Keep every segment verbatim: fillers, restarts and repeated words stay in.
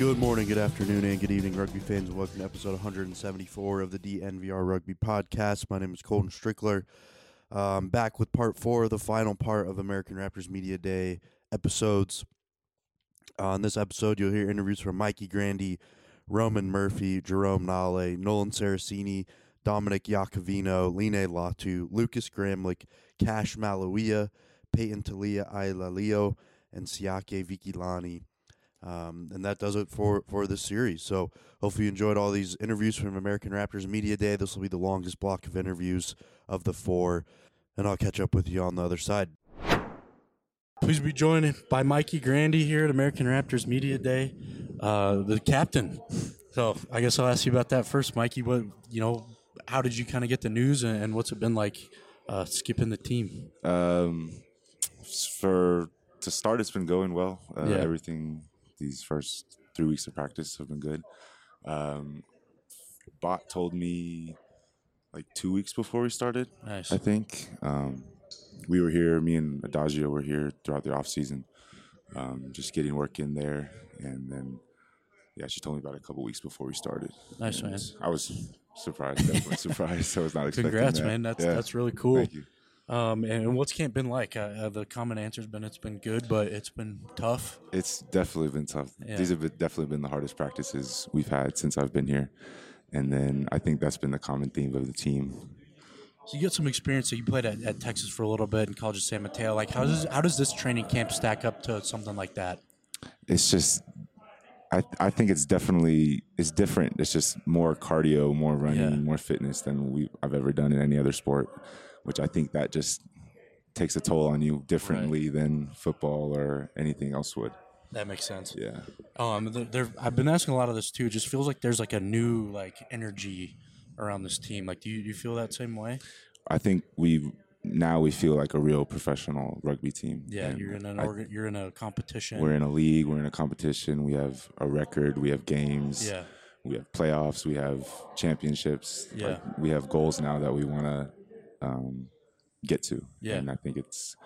Good morning, good afternoon, and good evening, rugby fans, and welcome to episode one seventy-four of the D N V R Rugby Podcast. My name is Colton Strickler. Um, back with part four, the final part of American Raptors Media Day episodes. On this episode, you'll hear interviews from Mikey Grandy, Roman Murphy, Jerome Nale, Nolan Saraceni, Dominic Iacovino, Line Latu, Lucas Gramlich, Cash Maluia, Peyton Talia Ailalio, and Siake Vikilani. Um, and that does it for, for this series. So hopefully you enjoyed all these interviews from American Raptors Media Day. This will be the longest block of interviews of the four, and I'll catch up with you on the other side. Please be joined by Mikey Grandy here at American Raptors Media Day, uh, the captain. So I guess I'll ask you about that first, Mikey. What you know, how did you kind of get the news, and, and what's it been like uh, skipping the team? Um, for to start, it's been going well. Uh, Yeah. Everything. These first three weeks of practice have been good. Um, Bot told me like two weeks before we started, Nice. I think. Um, we were here, me and Adagio were here throughout the off season, um, just getting work in there. And then, yeah, she told me about it a couple weeks before we started. Nice, and man. I was surprised, definitely surprised. I was not expecting Congrats, that. man. That's Yeah. that's really cool. Thank you. Um, and what's camp been like? Uh, uh, the common answer's been it's been good, but it's been tough. It's definitely been tough. Yeah. These have been, definitely been the hardest practices we've had since I've been here. And then I think that's been the common theme of the team. So you got some experience. So you played at, at Texas for a little bit in College of San Mateo. Like, how does how does this training camp stack up to something like that? It's just, I I think it's definitely, it's different. It's just more cardio, more running, Yeah. more fitness than we I've ever done in any other sport, which I think that just takes a toll on you differently than football or anything else would. That makes sense. Yeah. Um, there, there, I've been asking a lot of this too. It just feels like there's like a new like energy around this team. Like, do you, do you feel that same way? I think we now we feel like a real professional rugby team. Yeah, And you're in an I- organ, you're in a competition. We're in a league. We're in a competition. We have a record. We have games. yeah, We have playoffs. We have championships. Yeah. Like, we have goals now that we want to um, get to. Yeah. And I think it's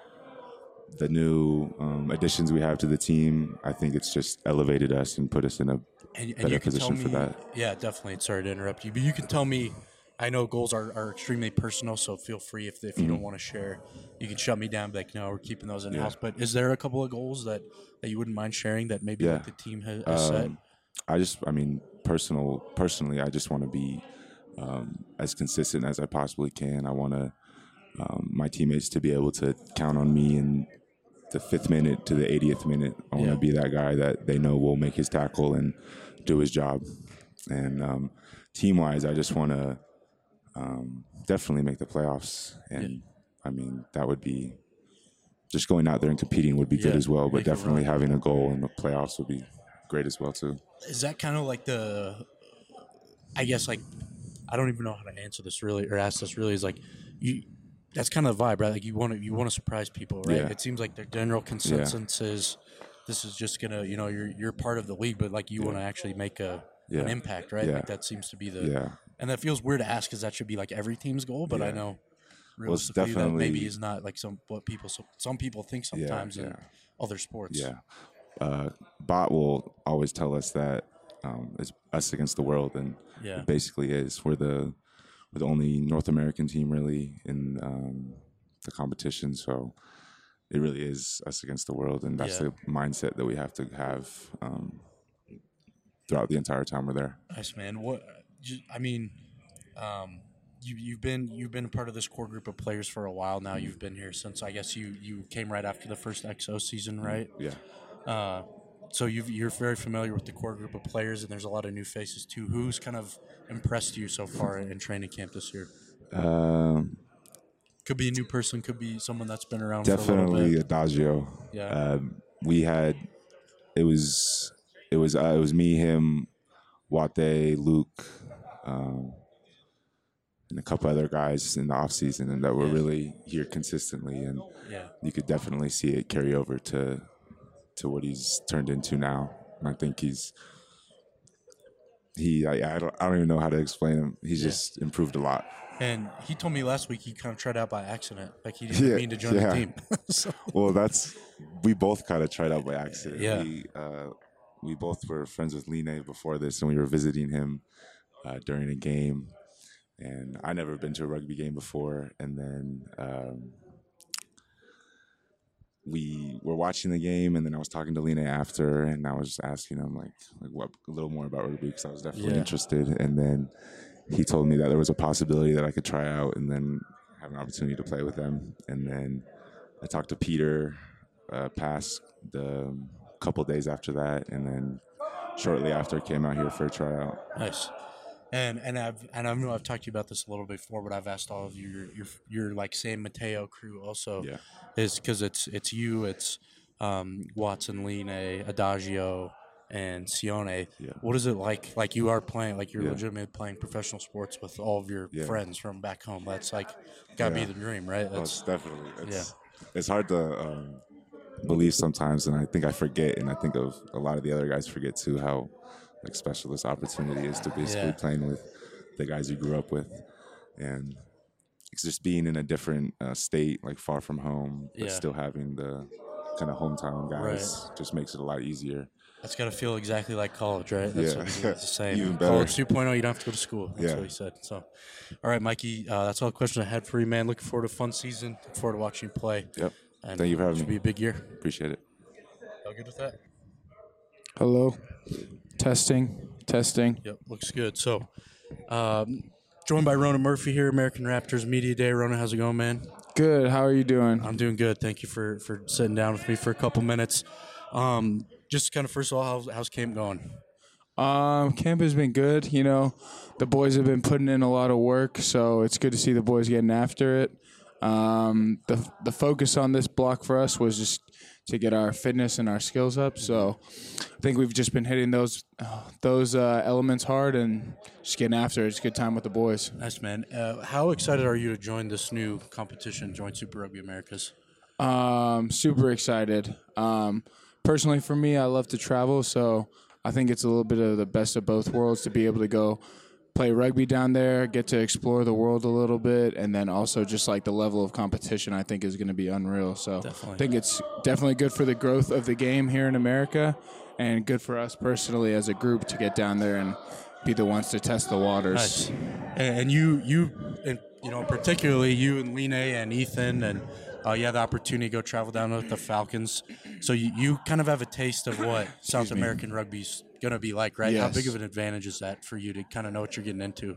the new um, additions we have to the team. I think it's just elevated us and put us in a and, and better you can tell position me, for that. Yeah, definitely. Sorry to interrupt you, but you can tell me. I know goals are, are extremely personal, so feel free if if you Mm-hmm. don't want to share, you can shut me down. And be like, no, we're keeping those in Yeah. house. But is there a couple of goals that, that you wouldn't mind sharing that maybe Yeah. like the team has, has set? Um, I just, I mean, personal, personally, I just want to be um, as consistent as I possibly can. I want to um, my teammates to be able to count on me in the fifth minute to the eightieth minute. I want to Yeah. be that guy that they know will make his tackle and do his job. And um, team-wise, I just want to um, definitely make the playoffs. And I mean, that would be just going out there and competing would be good Yeah, as well. But make a definitely run. having a goal in the playoffs would be great as well too. Is that kind of like the, I guess like, I don't even know how to answer this really or ask this really. Is like you. That's kind of the vibe, right? Like you want to you want to surprise people, right? Yeah. It seems like their general consensus is this is just gonna, you know, you're you're part of the league, but like you want to actually make a Yeah. an impact, right? Yeah. Like that seems to be the, Yeah. and that feels weird to ask because that should be like every team's goal, but I Yeah. know Well, it's realistically that maybe definitely- is not like some what people so, some people think sometimes in yeah. other sports. Yeah. Uh, Bot will always tell us that um, it's us against the world, and Yeah. it basically is. We're the we're the only North American team really in um, the competition, so it really is us against the world, and that's Yeah. the mindset that we have to have um, throughout the entire time we're there. Nice, man. What ju- I mean, um, you you've been you've been a part of this core group of players for a while now. You've been here since I guess you you came right after the first X O season, right? Yeah. Uh, so you've, you're very familiar with the core group of players, and there's a lot of new faces too. Who's kind of impressed you so far in training camp this year? Um, Could be a new person, could be someone that's been around for a little definitely bit. Adagio. Yeah. Um, we had it was it was uh, it was me, him, Wate, Luke, um, and a couple other guys in the off season, and that were Yeah. really here consistently, and Yeah. you could definitely see it carry over to to what he's turned into now. And I think he's he I, I don't I don't even know how to explain him. He's Yeah. just improved a lot. And he told me last week he kind of tried out by accident, like he didn't Yeah, mean to join yeah. the team. So- Well, that's we both kind of tried out by accident. Yeah. We, uh, we both were friends with Line before this, and we were visiting him uh, during a game. And I never been to a rugby game before, and then um, we were watching the game, and then I was talking to Line after, and I was just asking him like, like what a little more about rugby because I was definitely Yeah. interested. And then he told me that there was a possibility that I could try out and then have an opportunity to play with them. And then I talked to Peter uh, past the um, couple days after that, and then shortly after came out here for a tryout. Nice. And and I've and I know I've talked to you about this a little before, but I've asked all of your your your like San Mateo crew also, Yeah. is because it's it's you, it's um, Watson, Line, Adagio, and Sione. Yeah. What is it like? Like you are playing, like you're Yeah. legitimately playing professional sports with all of your Yeah. friends from back home. That's like gotta Yeah. be the dream, right? Oh, That's it's definitely. It's, it's hard to um, believe sometimes, and I think I forget, and I think of a lot of the other guys forget too how like special this opportunity is to basically Yeah. playing with the guys you grew up with, and it's just being in a different uh, state, like far from home, but Yeah. still having the kind of hometown guys just makes it a lot easier. That's got to feel exactly like college, right? That's Yeah. what he was saying. Even better. College two point oh, you don't have to go to school. That's Yeah. what he said. So, all right, Mikey, uh, that's all the questions I had for you, man. Looking forward to a fun season. Looking forward to watching you play. Yep. And Thank you for having should me. be a big year. Appreciate it. All good with that? Hello. Testing. Testing. Yep, looks good. So, um, joined by Rona Murphy here, American Raptors Media Day. Rona, how's it going, man? Good. How are you doing? I'm doing good. Thank you for, for sitting down with me for a couple minutes. Um, just kind of first of all, how's, how's camp going? Um, camp has been good. You know, the boys have been putting in a lot of work, so it's good to see the boys getting after it. Um, the the focus on this block for us was just to get our fitness and our skills up. So I think we've just been hitting those uh, those uh, elements hard and just getting after it. It's a good time with the boys. Nice, man. Uh, how excited are you to join this new competition, join Super Rugby Americas? Um, super excited. Um, personally, for me, I love to travel, so I think it's a little bit of the best of both worlds to be able to go play rugby down there, get to explore the world a little bit, and then also just like the level of competition I think is going to be unreal. So Definitely. I think it's definitely good for the growth of the game here in America and good for us personally as a group to get down there and be the ones to test the waters. Nice. And, and you, you, and you know, particularly you and Line and Ethan, and uh, you had the opportunity to go travel down with the Falcons. So you, you kind of have a taste of what South American rugby's going to be like, right? How Yes. big of an advantage is that for you to kind of know what you're getting into?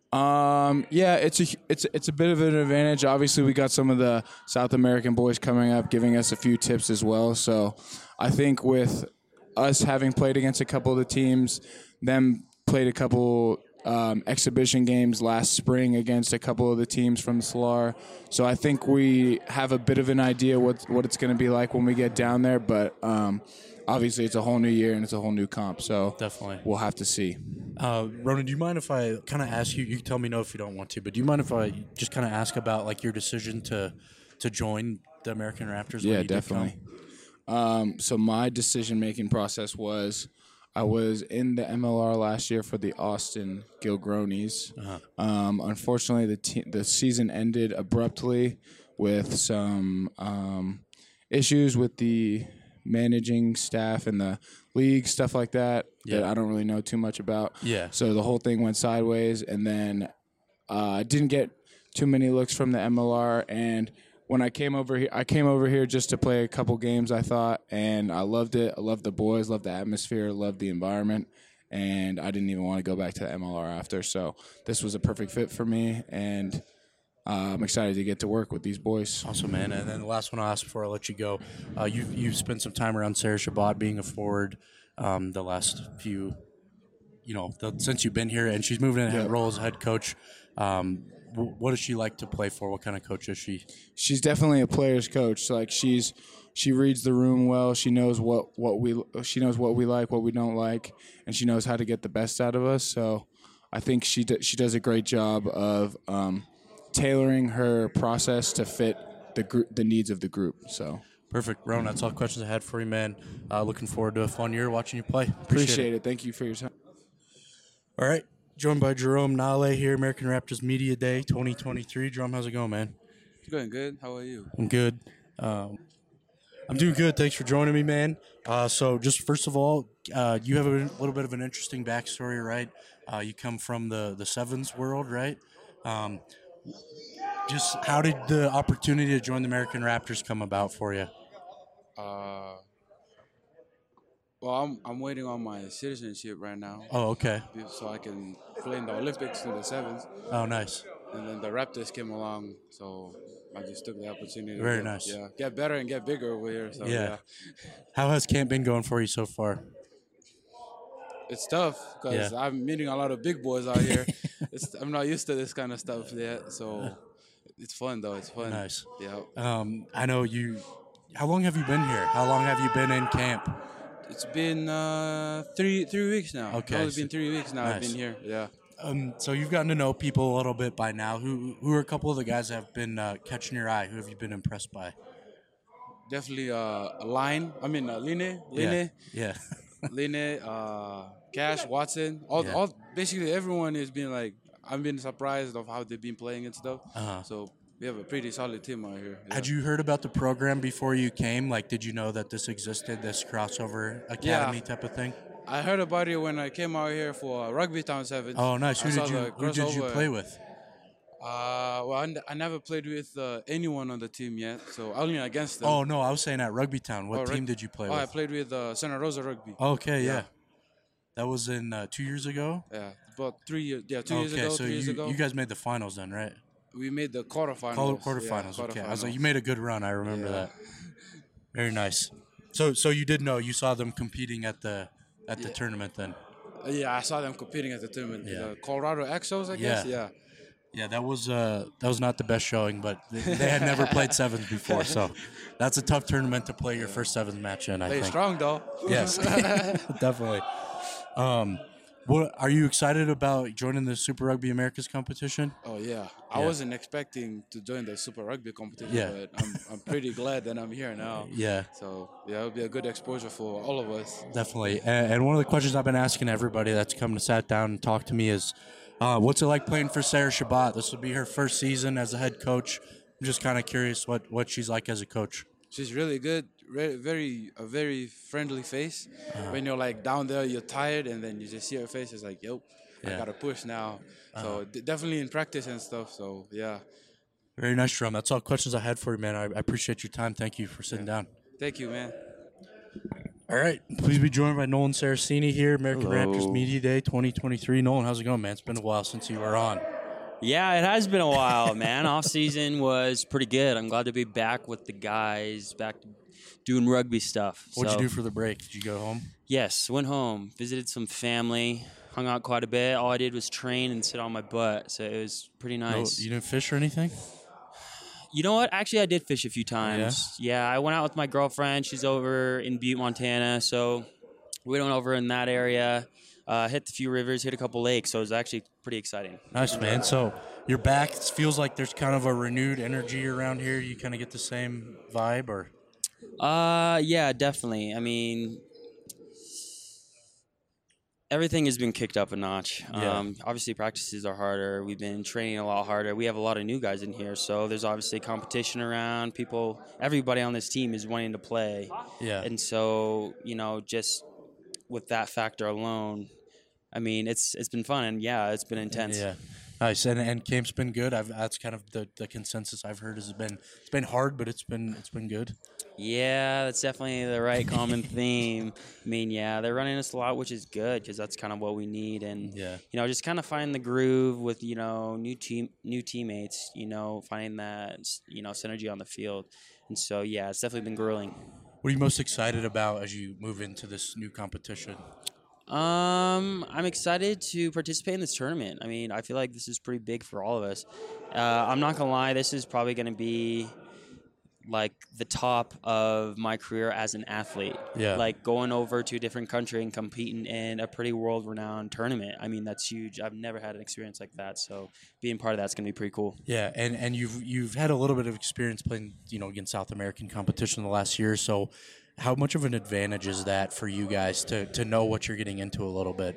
Um, yeah, it's a it's it's a bit of an advantage. Obviously, we got some of the South American boys coming up, giving us a few tips as well. So, I think with us having played against a couple of the teams, them played a couple um, exhibition games last spring against a couple of the teams from Salar. So I think we have a bit of an idea what what it's going to be like when we get down there. But um, obviously, it's a whole new year and it's a whole new comp. So Definitely. we'll have to see. Uh, Ronan, do you mind if I kind of ask you? You can tell me no if you don't want to, but do you mind if I just kind of ask about like your decision to to join the American Raptors? when Yeah, you did definitely. come? Um, so my decision-making process was I was in the M L R last year for the Austin Gilgronis. Uh-huh. Um, unfortunately, the te- the season ended abruptly with some um, issues with the managing staff and the league, stuff like that, that Yeah. I don't really know too much about. Yeah. So the whole thing went sideways, and then uh, I didn't get too many looks from the M L R. And when I came over here, I came over here just to play a couple games, I thought, and I loved it. I loved the boys, loved the atmosphere, loved the environment, and I didn't even want to go back to the M L R after. So this was a perfect fit for me, and uh, I'm excited to get to work with these boys. Awesome, man. And then the last one I'll ask before I let you go. Uh, you you've spent some time around Sarah Shabbat being a forward um, the last few, you know, the, since you've been here, and she's moving in Yeah. a role as head coach. Um, wh- what does she like to play for? What kind of coach is she? She's definitely a player's coach. Like she's she reads the room well. She knows what, what we she knows what we like, what we don't like, and she knows how to get the best out of us. So I think she d- she does a great job of um, tailoring her process to fit the group the needs of the group. So Perfect, Ron. That's all the questions I had for you, man. Uh, looking forward to a fun year watching you play. Appreciate, appreciate it. it. Thank you for your time. All right, joined by Jerome Nale here, American Raptors Media Day twenty twenty-three. Jerome, how's it going, man? Going good. How are you? I'm good. Um, I'm doing good. Thanks for joining me, man. Uh, so, just first of all, uh, you have a little bit of an interesting backstory, right? Uh, you come from the the sevens world, right? Um, just how did the opportunity to join the American Raptors come about for you? Uh, well, I'm I'm waiting on my citizenship right now, Oh, okay. so I can play in the Olympics in the sevens. Oh, nice. And then the Raptors came along, so I just took the opportunity. Very to get, nice. Yeah, get better and get bigger over here. So Yeah. yeah, How has camp been going for you so far? it's tough because Yeah. I'm meeting a lot of big boys out here. it's, I'm not used to this kind of stuff yet, so it's fun though. It's fun. Nice. Yeah. Um, I know you. How long have you been here? How long have you been in camp? It's been uh, three three weeks now. Okay, It's only so- been three weeks now. I've nice. been here. Yeah. Um, so you've gotten to know people a little bit by now. Who who are a couple of the guys that have been uh, catching your eye? Who have you been impressed by? Definitely uh, a line. I mean, uh, Line, Line, Yeah. Line, uh, Cash, Watson. All, Yeah. all basically everyone has been like. I've been surprised of how they've been playing and stuff. Uh-huh. So we have a pretty solid team out here. Yeah. Had you heard about the program before you came? Like, did you know that this existed, this crossover academy type of thing? I heard about it when I came out here for Rugby Town Sevens. Oh, nice. Who I saw did you the Who did you crossover. play with? Uh, well, I, n- I never played with uh, anyone on the team yet, so only against them. Oh no, I was saying at Rugby Town. What Oh, team Rug- did you play Oh, I with? played with uh, Santa Rosa Rugby. Okay, yeah. Yeah. That was in uh, two years ago. Yeah, about three years. Yeah, two okay, years ago. so three years you ago. you guys made the finals then, right? we made the quarterfinals. Quarter, Yeah, quarterfinals. okay, I was like, quarterfinals. you made a good run. I remember Yeah. that. Very nice. So so you did know you saw them competing at the at the Yeah. tournament then. Uh, Yeah, I saw them competing at the tournament. Yeah. The Colorado Exos, I guess. Yeah. Yeah. Yeah, that was uh, that was not the best showing, but they, they had never played sevens before, so that's a tough tournament to play your first sevens match in. I Play think. strong though. Yes, definitely. Um, what are you excited about joining the Super Rugby Americas competition? Oh yeah. I Yeah. wasn't expecting to join the Super Rugby competition, Yeah. but I'm I'm pretty glad that I'm here now. Yeah, So yeah, it'll be a good exposure for all of us. definitely. And, and one of the questions I've been asking everybody that's come to sat down and talk to me is, uh, what's it like playing for Sarah Shabbat? This will be her first season as a head coach. I'm just kind of curious what, what she's like as a coach. She's really good, re- very a very friendly face. Uh-huh. When you're like down there, you're tired, and then you just see her face. It's like, yo, Yeah. I gotta push now. Uh-huh. So d- definitely in practice and stuff. So yeah, Very nice, Jerome. That's all questions I had for you, man. I, I appreciate your time. Thank you for sitting down. thank you, man. All right. Please be joined by Nolan Saraceni here, American Hello. Raptors Media Day twenty twenty-three. Nolan, how's it going, man? It's been a while since you were on. Yeah, it has been a while, man. Off season was pretty good. I'm glad to be back with the guys, back to doing rugby stuff. What'd So, you do for the break? Did you go home? Yes, went home, visited some family, hung out quite a bit. All I did was train and sit on my butt, so it was pretty No, nice. you didn't fish or anything? You know what? Actually, I did fish a few times. Yeah, I went out with my girlfriend. She's over in Butte, Montana, so we went over in that area, uh, hit a few rivers, hit a couple lakes, so it was actually pretty exciting. Nice, man. So you're back. It feels like there's kind of a renewed energy around here. You kind of get the same vibe, or Uh, yeah, definitely. I mean, everything has been kicked up a notch. Yeah. Um, obviously, practices are harder. We've been training a lot harder. We have a lot of new guys in here, so there's obviously competition around. People, everybody on this team is wanting to play, yeah, and so you know, just with that factor alone, I mean, it's it's been fun, and yeah, it's been intense. yeah. Nice, and and camp's been good. I've that's kind of the, the consensus I've heard has been it's been hard, but it's been it's been good. Yeah, that's definitely the right common theme. I mean, yeah, they're running us a lot, which is good because that's kind of what we need. And Yeah. you know, just kind of find the groove with you know new team, new teammates. You know, finding that you know synergy on the field. And so, yeah, it's definitely been grueling. What are you most excited about as you move into this new competition? Um, I'm excited to participate in this tournament. I mean, I feel like this is pretty big for all of us. Uh, I'm not gonna lie, this is probably gonna be like the top of my career as an athlete. Yeah. Like going over to a different country and competing in a pretty world-renowned tournament. I mean, that's huge. I've never had an experience like that, so being part of that's gonna be pretty cool. Yeah, and, and you've you've had a little bit of experience playing, you know, against South American competition the last year. So, how much of an advantage is that for you guys to to know what you're getting into a little bit?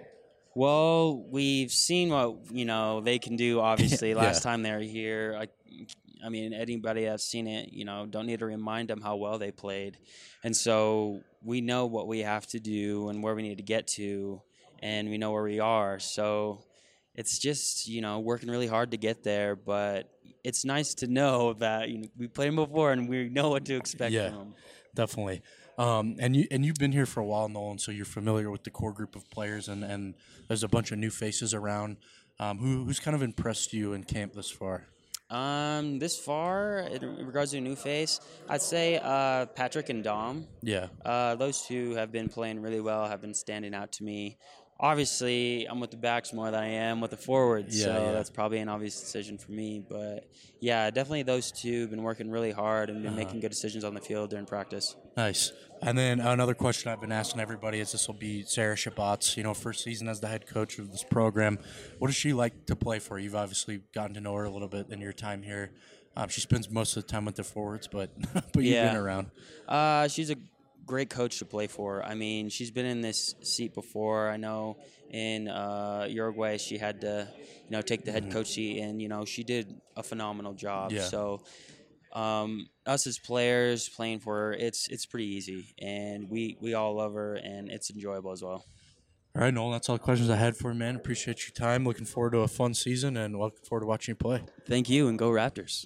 Well, we've seen what you know they can do. Obviously, Yeah. last time they were here, I, I mean, anybody that's seen it, you know, don't need to remind them how well they played. And so we know what we have to do and where we need to get to, and we know where we are. So it's just, you know, working really hard to get there. But it's nice to know that, you know, we played them before and we know what to expect Yeah. from them. Definitely. Um, and you and you've been here for a while, Nolan, so you're familiar with the core group of players, and, and there's a bunch of new faces around. Um, who who's kind of impressed you in camp this far? Um, this far, in regards to a new face, I'd say uh, Patrick and Dom. Yeah. Uh, those two have been playing really well, have been standing out to me. Obviously, I'm with the backs more than I am with the forwards, Yeah, so yeah. that's probably an obvious decision for me. But, yeah, definitely those two have been working really hard and been Uh-huh. making good decisions on the field during practice. Nice. And then another question I've been asking everybody is this will be Sarah Shabbat's, you know, first season as the head coach of this program. What does she like to play for? You've obviously gotten to know her a little bit in your time here. Um, she spends most of the time with the forwards, but but you've Yeah. been around. Uh, she's a great coach to play for. I mean, she's been in this seat before. I know in uh, Uruguay she had to, you know, take the head coach seat, and you know she did a phenomenal job. Yeah. So, um, us as players playing for her, it's it's pretty easy, and we we all love her, and it's enjoyable as well. All right, Nolan, that's all the questions I had for you, man. Appreciate your time. Looking forward to a fun season, and looking forward to watching you play. Thank you, and go Raptors.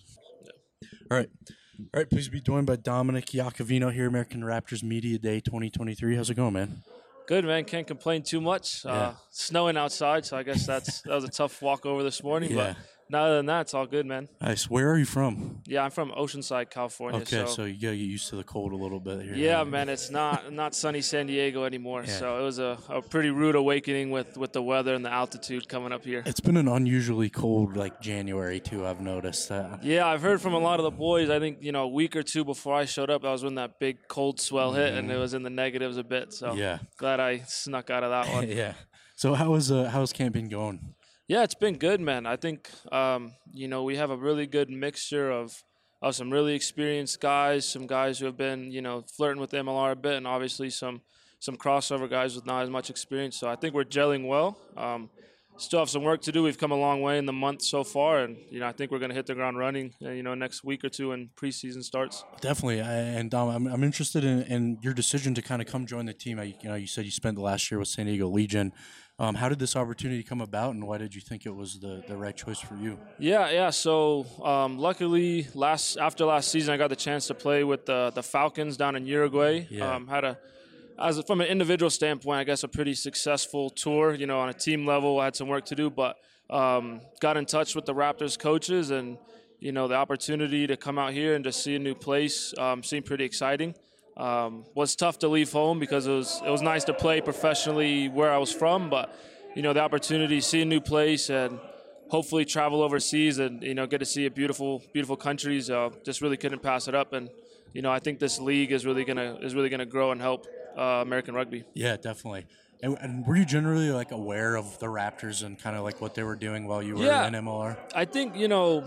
All right. All right, please be joined by Dominic Iacovino here, American Raptors Media Day twenty twenty-three. How's it going, man? Good, man. Can't complain too much. Yeah. Uh, snowing outside, so I guess that's that was a tough walk over this morning. Yeah. But other than that, it's all good, man. Nice. Where are you from? Yeah, I'm from Oceanside, California. Okay, so, so, you gotta get used to the cold a little bit here. yeah, man, it's not not sunny San Diego anymore. Yeah. So it was a, a pretty rude awakening with, with the weather and the altitude coming up here. It's been an unusually cold, like, January, too, I've noticed. Uh, Yeah, I've heard from a lot of the boys. I think, you know, a week or two before I showed up, that was when that big cold swell hit, and it was in the negatives a bit. So Mm-hmm. Yeah. glad I snuck out of that one. yeah. So how is, uh, how's camp been going? Yeah, it's been good, man. I think, um, you know, we have a really good mixture of, of some really experienced guys, some guys who have been, you know, flirting with M L R a bit, and obviously some some crossover guys with not as much experience. So I think we're gelling well. Um, still have some work to do. We've come a long way in the month so far, and, you know, I think we're going to hit the ground running, uh, you know, next week or two when preseason starts. Definitely. I, and, Dom, I'm, I'm interested in, in your decision to kind of come join the team. I, you know, you said you spent the last year with San Diego Legion. Um, how did this opportunity come about, and why did you think it was the, the right choice for you? Yeah, yeah. So um, luckily, last after last season, I got the chance to play with the the Falcons down in Uruguay. Yeah. Um, had a, as from an individual standpoint, I guess a pretty successful tour. You know, on a team level, I had some work to do, but um, got in touch with the Raptors coaches, and you know, the opportunity to come out here and to see a new place um, seemed pretty exciting. Um, was tough to leave home because it was it was nice to play professionally where I was from, but you know, the opportunity to see a new place and hopefully travel overseas and you know get to see a beautiful beautiful countries. Uh, just really couldn't pass it up, and you know I think this league is really gonna is really gonna grow and help uh, American rugby. Yeah, definitely. And, and were you generally like aware of the Raptors and kind of like what they were doing while you were Yeah. in M L R? I think you know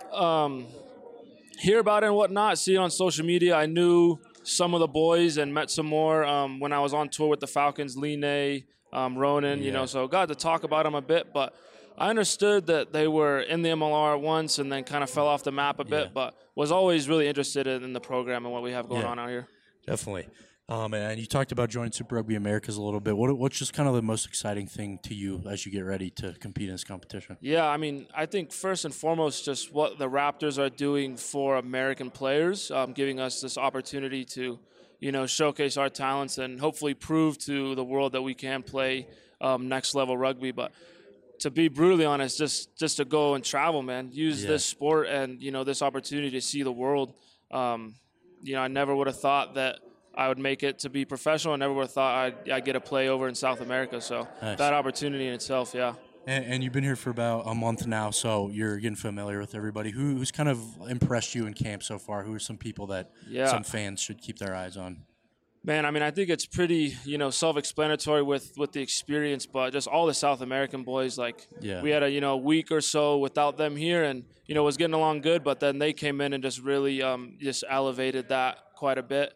um, hear about it and whatnot, see it on social media. I knew some of the boys and met some more um, when I was on tour with the Falcons, Line, um, Ronan, you Yeah. know, so got to talk about them a bit, but I understood that they were in the M L R once and then kind of fell off the map a bit, Yeah. but was always really interested in, in the program and what we have going Yeah. on out here. Definitely. Um, and you talked about joining Super Rugby Americas a little bit. What, what's just kind of the most exciting thing to you as you get ready to compete in this competition? Yeah, I mean, I think first and foremost, just what the Raptors are doing for American players, um, giving us this opportunity to, you know, showcase our talents and hopefully prove to the world that we can play um, next level rugby. But to be brutally honest, just just to go and travel, man, use Yeah. this sport and you know this opportunity to see the world. Um, you know, I never would have thought that I would make it to be professional. I never would have thought I'd, I'd get to play over in South America. So Nice. that opportunity in itself, yeah. And, and you've been here for about a month now, so you're getting familiar with everybody. Who, who's kind of impressed you in camp so far? Who are some people that Yeah. some fans should keep their eyes on? Man, I mean, I think it's pretty, you know, self-explanatory with, with the experience, but just all the South American boys, like, Yeah. we had a, you know, week or so without them here and, you know, was getting along good, but then they came in and just really um, just elevated that quite a bit.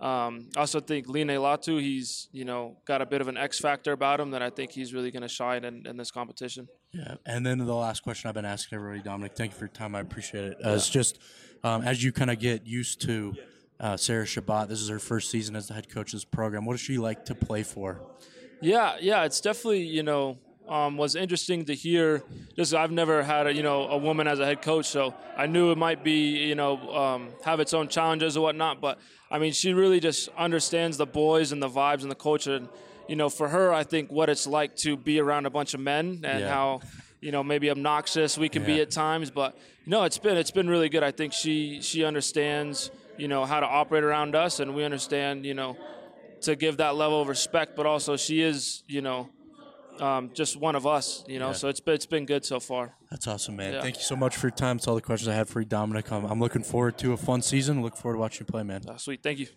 Um, I also think Line Latu, he's, you know, got a bit of an X factor about him that I think he's really going to shine in, in this competition. Yeah, and then the last question I've been asking everybody, Dominic, thank you for your time. I appreciate it. Uh, It's just um, as you kind of get used to uh, Sarah Shabbat, this is her first season as the head coach of this program. What does she like to play for? Yeah, yeah, it's definitely, you know, um, was interesting to hear. Just I've never had a, you know, a woman as a head coach, so I knew it might be, you know, um, have its own challenges or whatnot. But I mean, she really just understands the boys and the vibes and the culture. And you know, for her, I think what it's like to be around a bunch of men and Yeah. how, you know, maybe obnoxious we can be Yeah. at times. But no, it's been it's been really good. I think she she understands, you know, how to operate around us, and we understand, you know, to give that level of respect. But also, she is, you know, um, just one of us, you know. Yeah. So it's been it's been good so far. That's awesome, man. Yeah. Thank you so much for your time. That's all the questions I had for you, Dominic. I'm, I'm looking forward to a fun season. Look forward to watching you play, man. Uh, sweet, thank you.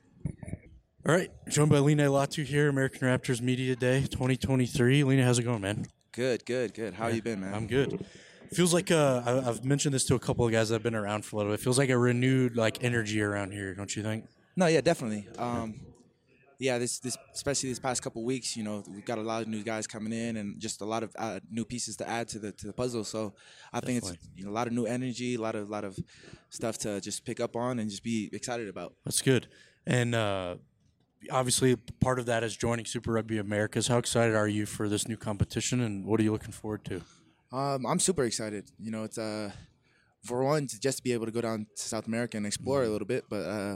All right, joined by Line Latu here, American Raptors Media Day twenty twenty-three. Lena, how's it going, man? Good, good, good. How you been, man? I'm good. Feels like uh, I- I've mentioned this to a couple of guys that have been around for a little bit. It feels like a renewed like energy around here, don't you think? No, yeah, definitely. Um, yeah, this this especially this past couple weeks, you know, we've got a lot of new guys coming in and just a lot of uh, new pieces to add to the to the puzzle. So I think it's Definitely. you know, a lot of new energy, a lot of lot of stuff to just pick up on and just be excited about. That's good. And uh, obviously, part of that is joining Super Rugby Americas. How excited are you for this new competition, and what are you looking forward to? Um, I'm super excited. You know, it's uh, for one to just be able to go down to South America and explore a little bit, but uh,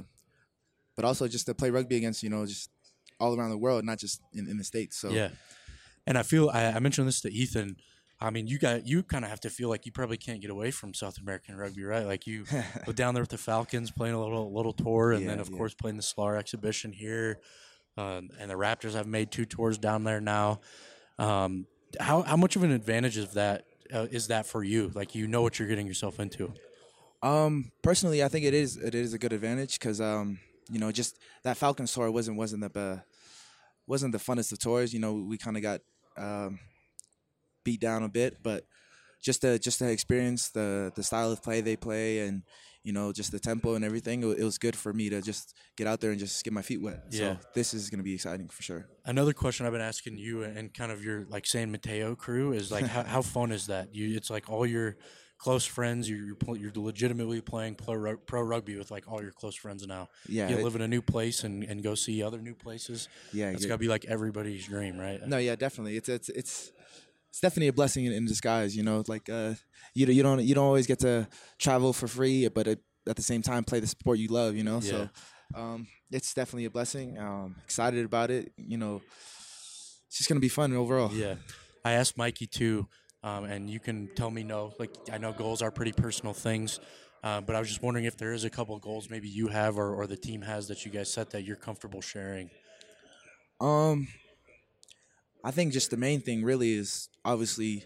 but also just to play rugby against you know just all around the world, not just in, in the States. So Yeah, and I feel I, I mentioned this to Ethan. I mean, you got you kind of have to feel like you probably can't get away from South American rugby, right? Like you go down there with the Falcons, playing a little little tour, and Yeah, then of yeah. course playing the Slar exhibition here. Um, and the Raptors have made two tours down there now. Um, how how much of an advantage is that uh, is that for you? Like you know what you're getting yourself into. Um, personally, I think it is it is a good advantage because um, you know, just that Falcons tour wasn't wasn't the uh, wasn't the funnest of tours. You know, we kind of got um, beat down a bit, but just to just to experience the the style of play they play and you know just the tempo and everything, it, wa- it was good for me to just get out there and just get my feet wet. Yeah. So this is gonna be exciting for sure. Another question I've been asking you and kind of your like San Mateo crew is like how, how fun is that? You it's like all your close friends. You're you're, pl- you're legitimately playing pro, rug- pro rugby with like all your close friends now. Yeah, you it- live in a new place and, and go see other new places. Yeah, It's you're- got to be like everybody's dream, right? No, yeah, definitely. It's it's it's it's definitely a blessing in, in disguise. You know, like uh, you you don't you don't always get to travel for free, but it, at the same time play the sport you love. You know, so um, it's definitely a blessing. Um, excited about it. You know, it's just gonna be fun overall. Yeah. I asked Mikey too, um, and you can tell me no. Like I know goals are pretty personal things, uh, but I was just wondering if there is a couple of goals maybe you have or, or the team has that you guys set that you're comfortable sharing. Um, I think just the main thing really is obviously,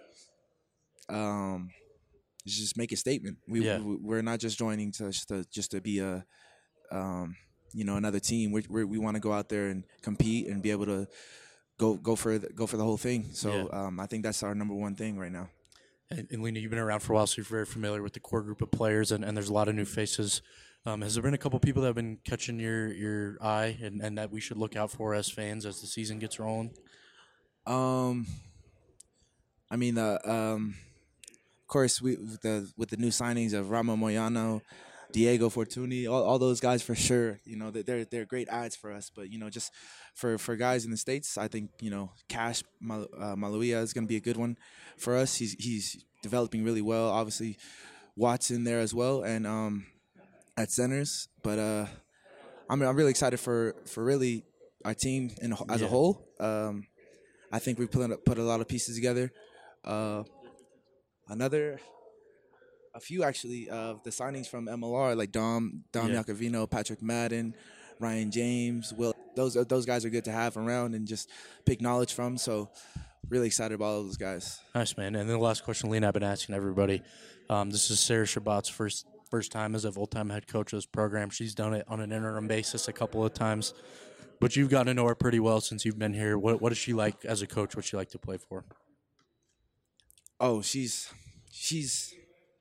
um, is just make a statement. We, Yeah. we we're not just joining to just to just to be a, um, you know, another team. We we we want to go out there and compete and be able to go go for the, go for the whole thing. So Yeah. um, I think that's our number one thing right now. And, and Lena, you've been around for a while, so you're very familiar with the core group of players, and, and there's a lot of new faces. Um, has there been a couple people that have been catching your, your eye and, and that we should look out for as fans as the season gets rolling? Um, I mean, uh, um, of course, we with the with the new signings of Ramo Moyano, Diego Fortuny, all, all those guys for sure. You know, they- they're they're great ads for us. But you know, just for, for guys in the States, I think you know Cash Mal, uh, Maluia is going to be a good one for us. He's he's developing really well. Obviously, Watson there as well, and um, at centers. But uh, I'm I'm really excited for for really our team in, a- as Yeah. a whole. Um, I think we put put a lot of pieces together. Uh, another, a few actually of the signings from M L R like Dom Dom Yeah. Iacovino, Patrick Madden, Ryan James, Will. Those those guys are good to have around and just pick knowledge from. So really excited about all those guys. Nice, man. And then the last question, Lena, I've been asking everybody. Um, this is Sarah Shabbat's first first time as a full-time head coach of this program. She's done it on an interim basis a couple of times. But you've gotten to know her pretty well since you've been here. What what is she like as a coach? What's she like to play for? Oh, she's she's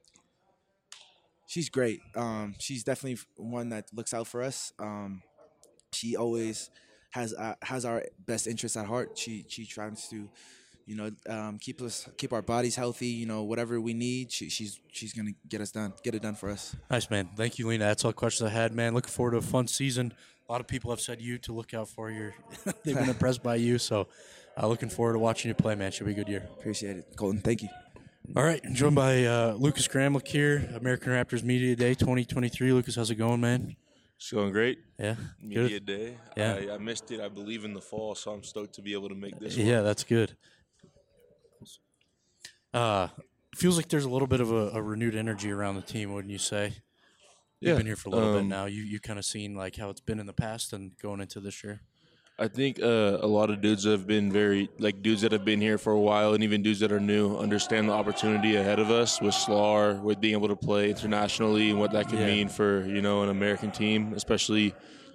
she's great. Um, she's definitely one that looks out for us. Um, she always has uh, has our best interests at heart. She she tries to, you know, um, keep us keep our bodies healthy. You know, whatever we need, she, she's she's gonna get us done, get it done for us. Nice, man. Thank you, Lena. That's all the questions I had, man. Looking forward to a fun season. A lot of people have said you to look out for. Your they've been impressed by you, so uh, looking forward to watching you play, man. Should be a good year. Appreciate it, Colton. Thank you. All right, joined by uh, Lucas Gramlich here, American Raptors Media Day twenty twenty-three. Lucas, how's it going, man? It's going great. Yeah, Media good. Day. Yeah. I, I missed it, I believe, in the fall, so I'm stoked to be able to make this one. Yeah, that's good. Uh, feels like there's a little bit of a, a renewed energy around the team, wouldn't you say? You've Yeah, been here for a little bit um, now. You you kind of seen like how it's been in the past and going into this year. I think uh, a lot of dudes have been very, like dudes that have been here for a while and even dudes that are new understand the opportunity ahead of us with Slar, with being able to play internationally and what that could Yeah. mean for, you know, an American team, especially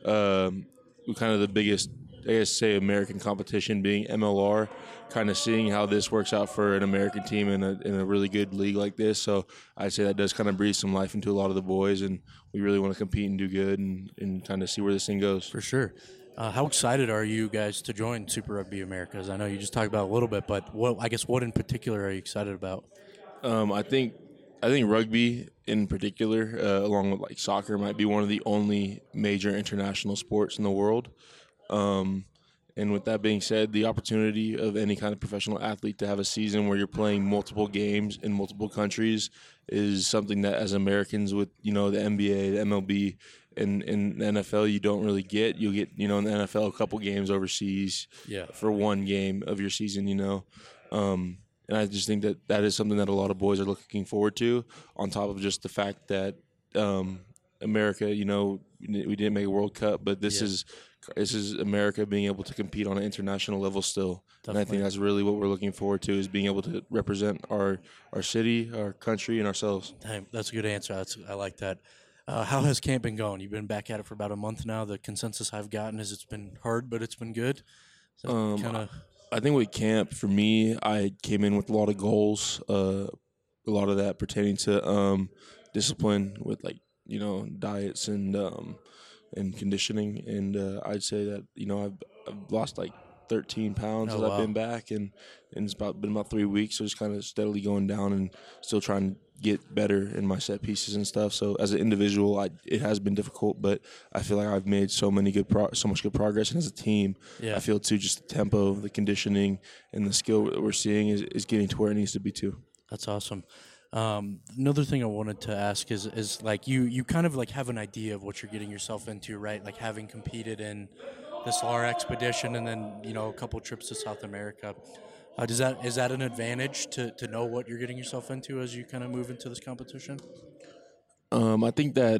um, with kind of the biggest, I guess, say American competition being M L R, kind of seeing how this works out for an American team in a, in a really good league like this. So I'd say that does kind of breathe some life into a lot of the boys, and we really want to compete and do good and, and kind of see where this thing goes. For sure. Uh, how excited are you guys to join Super Rugby Americas? I know you just talked about it a little bit, but what I guess what in particular are you excited about? Um, I think I think rugby in particular, uh, along with like soccer, might be one of the only major international sports in the world. Um, and with that being said, the opportunity of any kind of professional athlete to have a season where you're playing multiple games in multiple countries is something that, as Americans, with you know the N B A, the M L B, and in the N F L, you don't really get. You'll get you know in the N F L a couple games overseas, Yeah. for one game of your season. You know. Um, And I just think that that is something that a lot of boys are looking forward to, on top of just the fact that um, America, you know, we didn't make a World Cup, but this Yeah. is this is America being able to compete on an international level still. And I Definitely. think that's really what we're looking forward to, is being able to represent our our city, our country, and ourselves. Hey, that's a good answer. That's, I like that. Uh, how has camp been going? You've been back at it for about a month now. The consensus I've gotten is it's been hard, but it's been good. Um, kind of. I think with camp, for me, I came in with a lot of goals, uh, a lot of that pertaining to um, discipline with, like, you know, diets and um, and conditioning. And uh, I'd say that, you know, I've, I've lost like thirteen pounds Oh, as wow. I've been back, and, and it's about been about three weeks, so just kind of steadily going down and still trying to get better in my set pieces and stuff. So as an individual, I, it has been difficult, but I feel like I've made so many good pro- so much good progress, and as a team, Yeah. I feel too just the tempo, the conditioning, and the skill that we're seeing is, is getting to where it needs to be too. That's awesome. Um, another thing I wanted to ask is, is like you, you kind of like have an idea of what you're getting yourself into, right? Like having competed in the S L R expedition and then, you know, a couple trips to South America. Uh, does that is that an advantage to, to know what you're getting yourself into as you kind of move into this competition? Um, I think that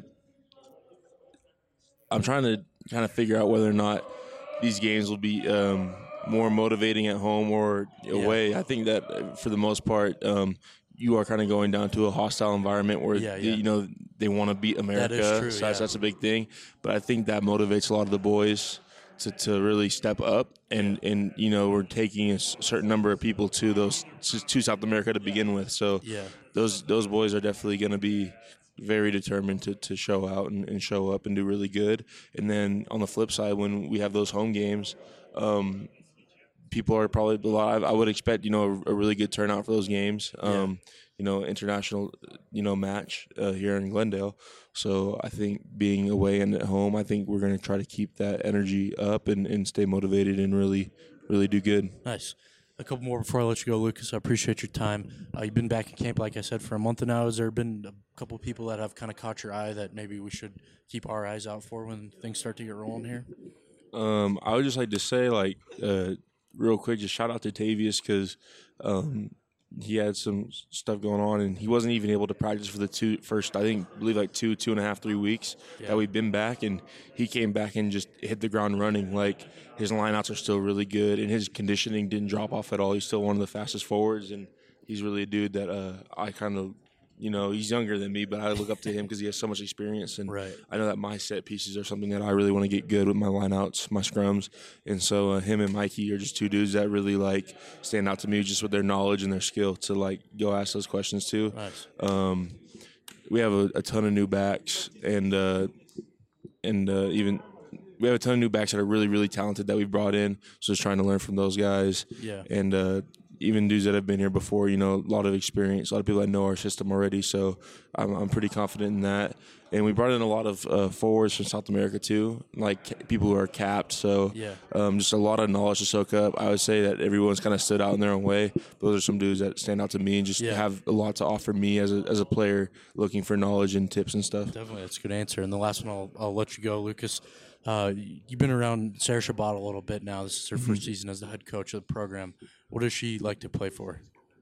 I'm trying to kind of figure out whether or not these games will be um, more motivating at home or away. I think that uh, for the most part, um, you are kind of going down to a hostile environment where Yeah, the- yeah. you know they want to beat America. true, so that's, yeah. that's a big thing. But I think that motivates a lot of the boys to, to really step up, and, and you know we're taking a s- certain number of people to those to South America to begin with. So Yeah. those those boys are definitely going to be very determined to, to show out and, and show up and do really good. And then on the flip side, when we have those home games, um, people are probably a lot. I would expect you know a, a really good turnout for those games. Um, You know, international, you know, match uh, here in Glendale. So I think being away and at home, I think we're going to try to keep that energy up and, and stay motivated and really, really do good. Nice. A couple more before I let you go, Lucas. I appreciate your time. Uh, you've been back in camp, like I said, for a month now. Has there been a couple people that have kind of caught your eye that maybe we should keep our eyes out for when things start to get rolling here? Um, I would just like to say, like, uh, real quick, just shout out to Tavius because um, he had some stuff going on, and he wasn't even able to practice for the two first, I think, believe like two, two and a half, three weeks Yeah. that we've been back, and he came back and just hit the ground running. Like, his lineouts are still really good, and his conditioning didn't drop off at all. He's still one of the fastest forwards, and he's really a dude that uh, I kind of, you know, he's younger than me, but I look up to him because he has so much experience, and Right. I know that my set pieces are something that I really want to get good with, my lineouts, my scrums, and so uh, him and Mikey are just two dudes that really like stand out to me just with their knowledge and their skill to like go ask those questions too. Nice. Um, we have a, a ton of new backs, and uh, and uh, even we have a ton of new backs that are really, really talented that we've brought in. So just trying to learn from those guys. Yeah. And uh, even dudes that have been here before, you know, a lot of experience, a lot of people that know our system already. So I'm, I'm pretty confident in that. And we brought in a lot of uh, forwards from South America too, like ca- people who are capped. So Yeah. um, just a lot of knowledge to soak up. I would say that everyone's kind of stood out in their own way. Those are some dudes that stand out to me and just Yeah. have a lot to offer me as a as a player looking for knowledge and tips and stuff. Definitely, that's a good answer. And the last one, I'll, I'll let you go, Lucas. Uh, you've been around Sarah Shabbat a little bit now. This is her first season as the head coach of the program. What does she like to play for?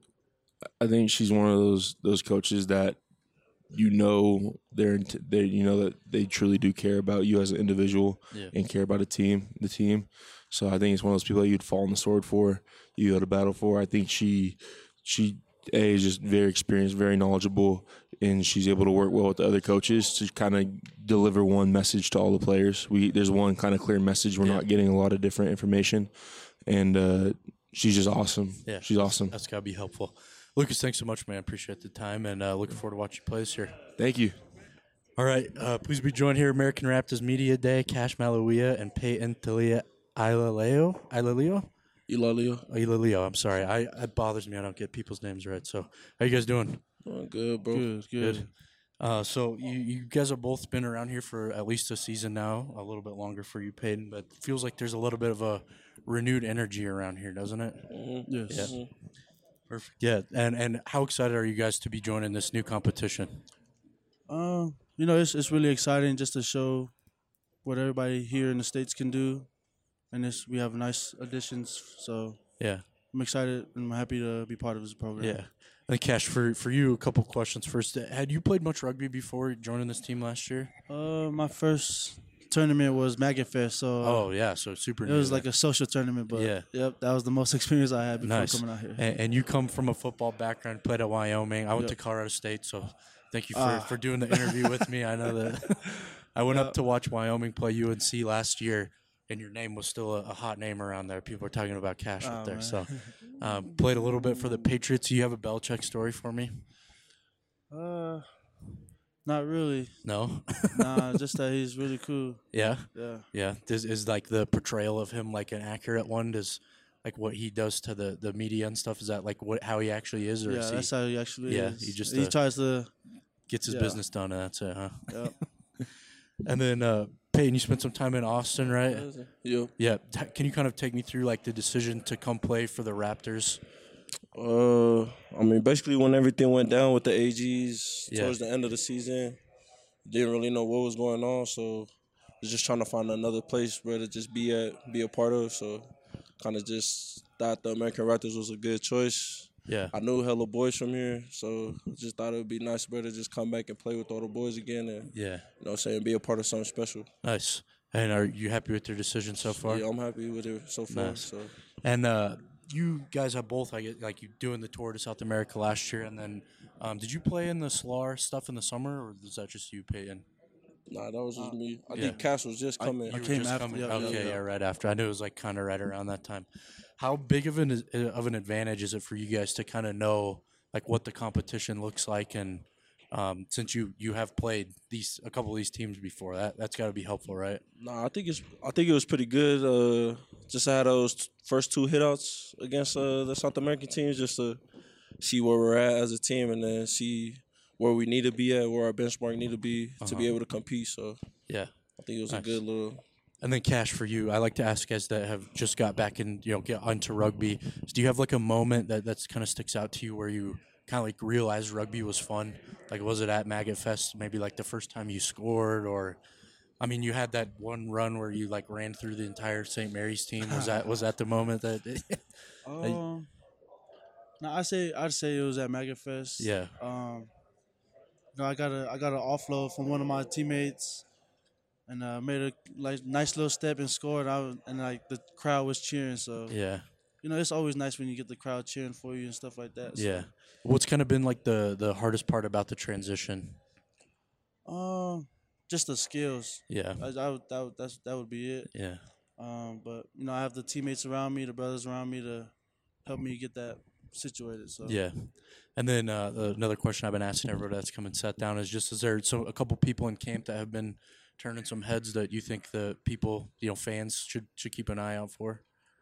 I think she's one of those those coaches that you know they're int- they you know that they truly do care about you as an individual Yeah. and care about a team, the team. So I think it's one of those people that you'd fall on the sword for, you go to battle for. I think she she a is just very experienced, very knowledgeable, and she's able to work well with the other coaches to kind of deliver one message to all the players. We there's one kind of clear message. We're Yeah. not getting a lot of different information, and uh, she's just awesome. Yeah, she's awesome. That's got to be helpful. Lucas, thanks so much, man. Appreciate the time, and uh, looking forward to watching you play this year. Thank you. All right, uh, please be joined here, American Raptors Media Day, Cash Malawia and Peyton Talia Ilaleo. Ilaleo? Elalio. Oh, Ilaleo, I'm sorry. I It bothers me. I don't get people's names right. So, how you guys doing? Oh, good, bro. Good, good. Good. Uh, so you, you guys have both been around here for at least a season now, a little bit longer for you, Peyton, but it feels like there's a little bit of a renewed energy around here, doesn't it? Mhm. Yes. Yeah. Perfect. Yeah, and and how excited are you guys to be joining this new competition? Um, you know, it's it's really exciting just to show what everybody here in the States can do, and this we have nice additions. So Yeah, I'm excited and I'm happy to be part of this program. yeah. And Cash, for for you, a couple questions first. Had you played much rugby before joining this team last year? Uh, my first tournament was Maggot Fest, so Oh yeah, so super. it new was then. like a social tournament. But Yeah. yep, that was the most experience I had before Nice. coming out here. And, and you come from a football background, played at Wyoming. I went Yep. to Colorado State, so thank you for, Ah. for doing the interview with me. I know that I went up to watch Wyoming play U N C last year, and your name was still a, a hot name around there. People were talking about Cash up Oh, there. man. So um, played a little bit for the Patriots. You have a Belichick story for me? Uh, not really. No? Nah, just that he's really cool. Yeah? Yeah. Yeah. Does, is like the portrayal of him like an accurate one? Does like what he does to the, the media and stuff, is that like what how he actually is? Or Yeah, is he that's how he actually Yeah, is. he just, he uh, tries to. gets his yeah. business done and that's it, huh? Yep. And then uh, Peyton, you spent some time in Austin, right? Yep. Yeah. T- can you kind of take me through like the decision to come play for the Raptors? Uh, I mean, basically, when everything went down with the A Gs Yeah. towards the end of the season, didn't really know what was going on, so was just trying to find another place where to just be at, be a part of. So, kind of just thought the American Raptors was a good choice. Yeah. I knew hella boys from here, so just thought it would be nice, bro, to just come back and play with all the boys again, and Yeah. you know, what I'm saying, be a part of something special. Nice. And are you happy with your decision so far? Yeah, I'm happy with it so far. Nice. So. And uh, you guys have both, I get, like you doing the tour to South America last year, and then um, did you play in the Solar stuff in the summer, or was that just you, Peyton? Nah, that was just me. I yeah. think Cash was just coming. You were came just after- coming. yeah, yeah, okay, yeah. yeah, right after. I knew it was like kind of right around that time. How big of an is- of an advantage is it for you guys to kind of know like what the competition looks like, and um, since you you have played these a couple of these teams before, that that's got to be helpful, right? Nah, I think it's. I think it was pretty good. Uh, just had those t- first two hitouts against uh, the South American teams, just to see where we're at as a team, and then see where we need to be at, where our benchmark need to be to be Uh-huh. able to compete. So Yeah. I think it was Nice. a good little. And then Cash, for you, I like to ask guys that have just got back in, you know, get onto rugby. Do you have like a moment that that's kind of sticks out to you where you kind of like realized rugby was fun? Like, was it at Maggot Fest? Maybe like the first time you scored, or, I mean, you had that one run where you like ran through the entire Saint Mary's team. Was that was that the moment that? Um, no, I say I'd say it was at Maggot Fest. Yeah. Um, you know, I got a I got an offload from one of my teammates, and uh, made a like nice little step and scored. I was, and like the crowd was cheering. So Yeah. you know, it's always nice when you get the crowd cheering for you and stuff like that. So, Yeah. What's kind of been like the the hardest part about the transition? Um, just the skills. Yeah. I, I would, that would, that's that would be it. Yeah. Um, but you know, I have the teammates around me, the brothers around me to help me get that situated. So Yeah. And then uh, another question I've been asking everybody that's come and sat down is just, is there so a couple people in camp that have been turning some heads that you think the people, you know, fans should should keep an eye out for?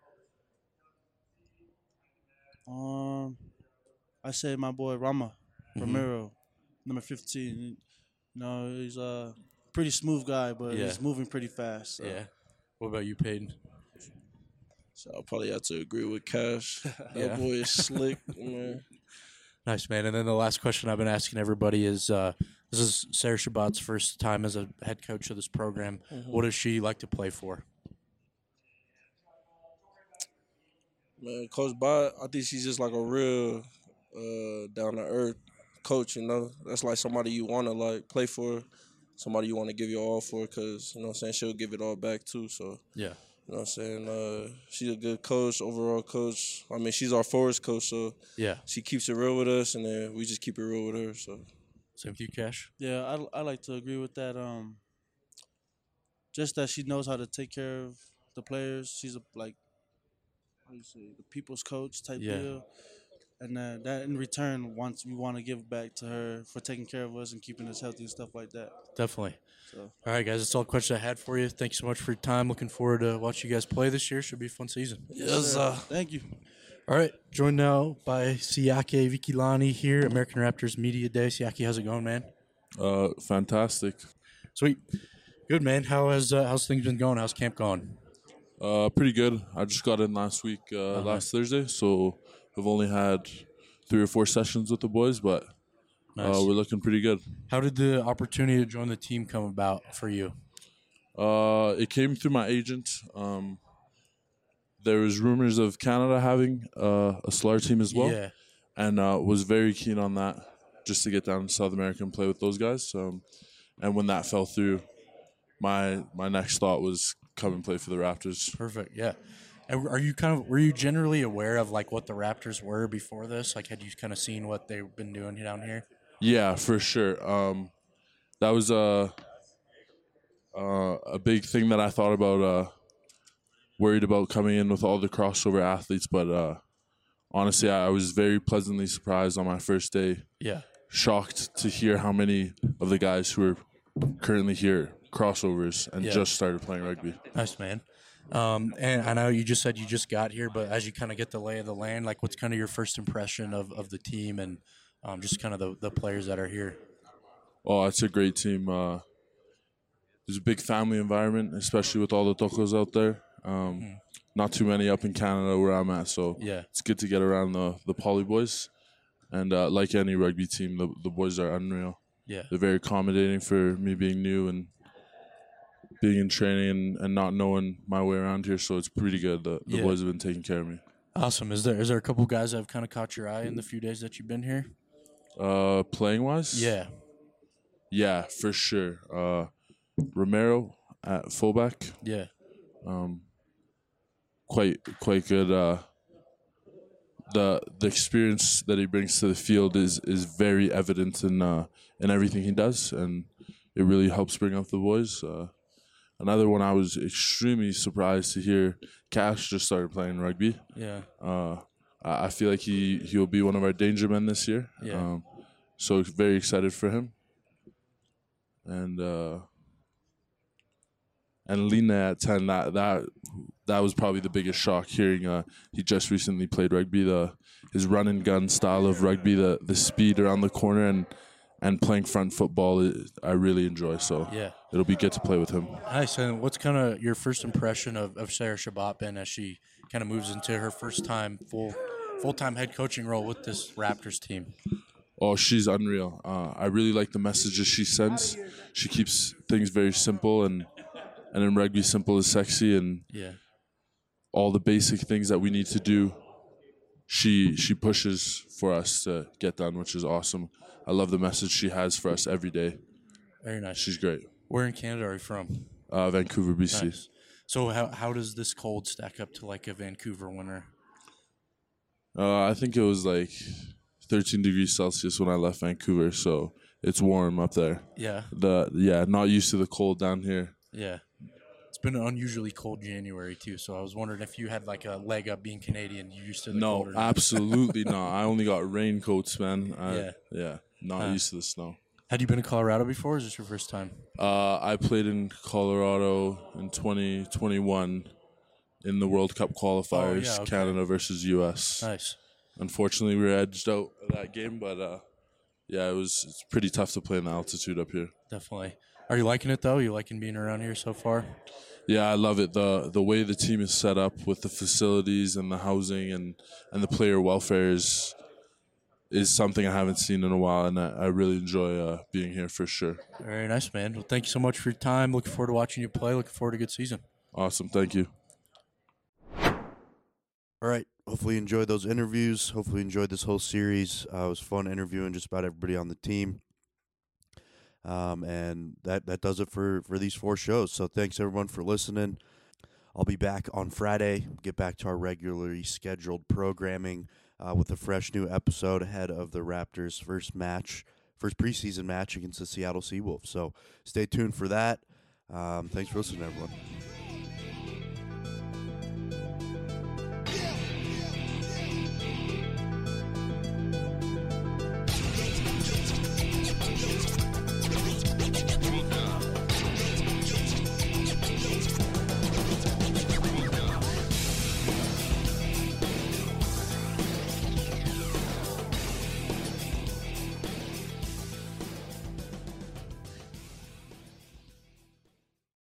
Um, I say my boy Rama Mhm. Romero, number fifteen. You know, he's a pretty smooth guy, but Yeah. he's moving pretty fast. So. Yeah. What about you, Peyton? So I'll probably have to agree with Cash. That Yeah. boy is slick, man. Nice, man. And then the last question I've been asking everybody is, uh, this is Sarah Shabbat's first time as a head coach of this program. Mhm. What does she like to play for? Man, Coach Bott, I think she's just like a real uh, down to earth coach. You know, that's like somebody you want to like play for, somebody you want to give your all for, because you know what I'm saying, she'll give it all back too. So Yeah. you know what I'm saying, uh, she's a good coach, overall coach. I mean, she's our forwards coach, so Yeah. she keeps it real with us, and then we just keep it real with her. So Same with you, Cash? Yeah, I, I like to agree with that. Um, just that she knows how to take care of the players. She's a like, how do you say, the people's coach type Yeah. deal. And uh, that in return, once we want to give back to her for taking care of us and keeping us healthy and stuff like that. Definitely. So. All right, guys, that's all the questions I had for you. Thank you so much for your time. Looking forward to watching you guys play this year. Should be a fun season. yes, uh, Thank you. All right, joined now by Siake Vikilani here, American Raptors Media Day. Siake, how's it going, man? Uh, fantastic. Sweet. Good, man. How has uh, how's things been going? How's camp going? Uh, pretty good. I just got in last week, uh, Uh-huh. last Thursday, so I've only had three or four sessions with the boys, but Nice. uh, we're looking pretty good. How did the opportunity to join the team come about for you? Uh, it came through my agent. Um, there was rumors of Canada having uh, a S L A R team as well, Yeah. and uh, was very keen on that, just to get down to South America and play with those guys. Um, and when that fell through, my my next thought was come and play for the Raptors. Perfect. Yeah. And are you kind of were you generally aware of like what the Raptors were before this? Like, had you kind of seen what they've been doing down here? Yeah, for sure. Um, that was a uh, a big thing that I thought about. Uh, worried about coming in with all the crossover athletes, but uh, honestly, I was very pleasantly surprised on my first day. Yeah. Shocked to hear how many of the guys who are currently here crossovers and Yeah. just started playing rugby. Nice, man. Um, and I know you just said you just got here, but as you kind of get the lay of the land, like what's kind of your first impression of, of the team and um, just kind of the, the players that are here? Oh, it's a great team. Uh, there's a big family environment, especially with all the tocos out there. Um, Mhm. Not too many up in Canada where I'm at, so Yeah. it's good to get around the the poly boys. And uh, like any rugby team, the the boys are unreal. Yeah. They're very accommodating for me being new and being in training and, and not knowing my way around here. So it's pretty good. The, the Yeah. boys have been taking care of me. Awesome. Is there is there a couple guys that have kind of caught your eye in the few days that you've been here? Uh, playing wise, Yeah. yeah, for sure. Uh, Romero at fullback, Yeah. um, quite quite good. Uh, the the experience that he brings to the field is is very evident in uh, in everything he does, and it really helps bring up the boys. Uh, another one I was extremely surprised to hear. Cash just started playing rugby. Yeah. Uh, I I feel like he he will be one of our danger men this year. Yeah. Um, so very excited for him. And uh, and Lina at ten. That that that was probably the biggest shock. Hearing uh, he just recently played rugby. The his run and gun style of rugby, the the speed around the corner, and and playing front football, is, I really enjoy. So Yeah. it'll be good to play with him. Nice. And what's kind of your first impression of, of Sarah Shabbat been as she kind of moves into her first time full full time head coaching role with this Raptors team? Oh, she's unreal. Uh, I really like the messages she sends. She keeps things very simple, and and in rugby, simple is sexy, and Yeah. all the basic things that we need to do, she she pushes for us to get done, which is awesome. I love the message she has for us every day. Very nice. She's great. Where in Canada are you from? Uh, Vancouver, B C. Nice. So how how does this cold stack up to like a Vancouver winter? Uh, I think it was like thirteen degrees Celsius when I left Vancouver, so it's warm up there. Yeah. The yeah, not used to the cold down here. Yeah. It's been an unusually cold January too, so I was wondering if you had like a leg up being Canadian. You used to the No, cold or not? absolutely not. I only got raincoats, man. I, Yeah. yeah, not Huh. used to the snow. Had you been to Colorado before, or is this your first time? Uh, I played in Colorado in twenty twenty-one in the World Cup qualifiers, yeah, okay. Canada versus U S. Nice. Unfortunately, we were edged out of that game, but uh, yeah, it was it's pretty tough to play in the altitude up here. Definitely. Are you liking it, though? You liking being around here so far? Yeah, I love it. the The way the team is set up with the facilities and the housing and, and the player welfare is is something I haven't seen in a while, and I, I really enjoy uh, being here for sure. Very nice, man. Well, thank you so much for your time. Looking forward to watching you play. Looking forward to a good season. Awesome. Thank you. All right. Hopefully you enjoyed those interviews. Hopefully you enjoyed this whole series. Uh, it was fun interviewing just about everybody on the team. Um, and that, that does it for, for these four shows. So thanks, everyone, for listening. I'll be back on Friday, get back to our regularly scheduled programming uh, with a fresh new episode ahead of the Raptors' first match, first preseason match against the Seattle Seawolves. So stay tuned for that. Um, thanks for listening, everyone.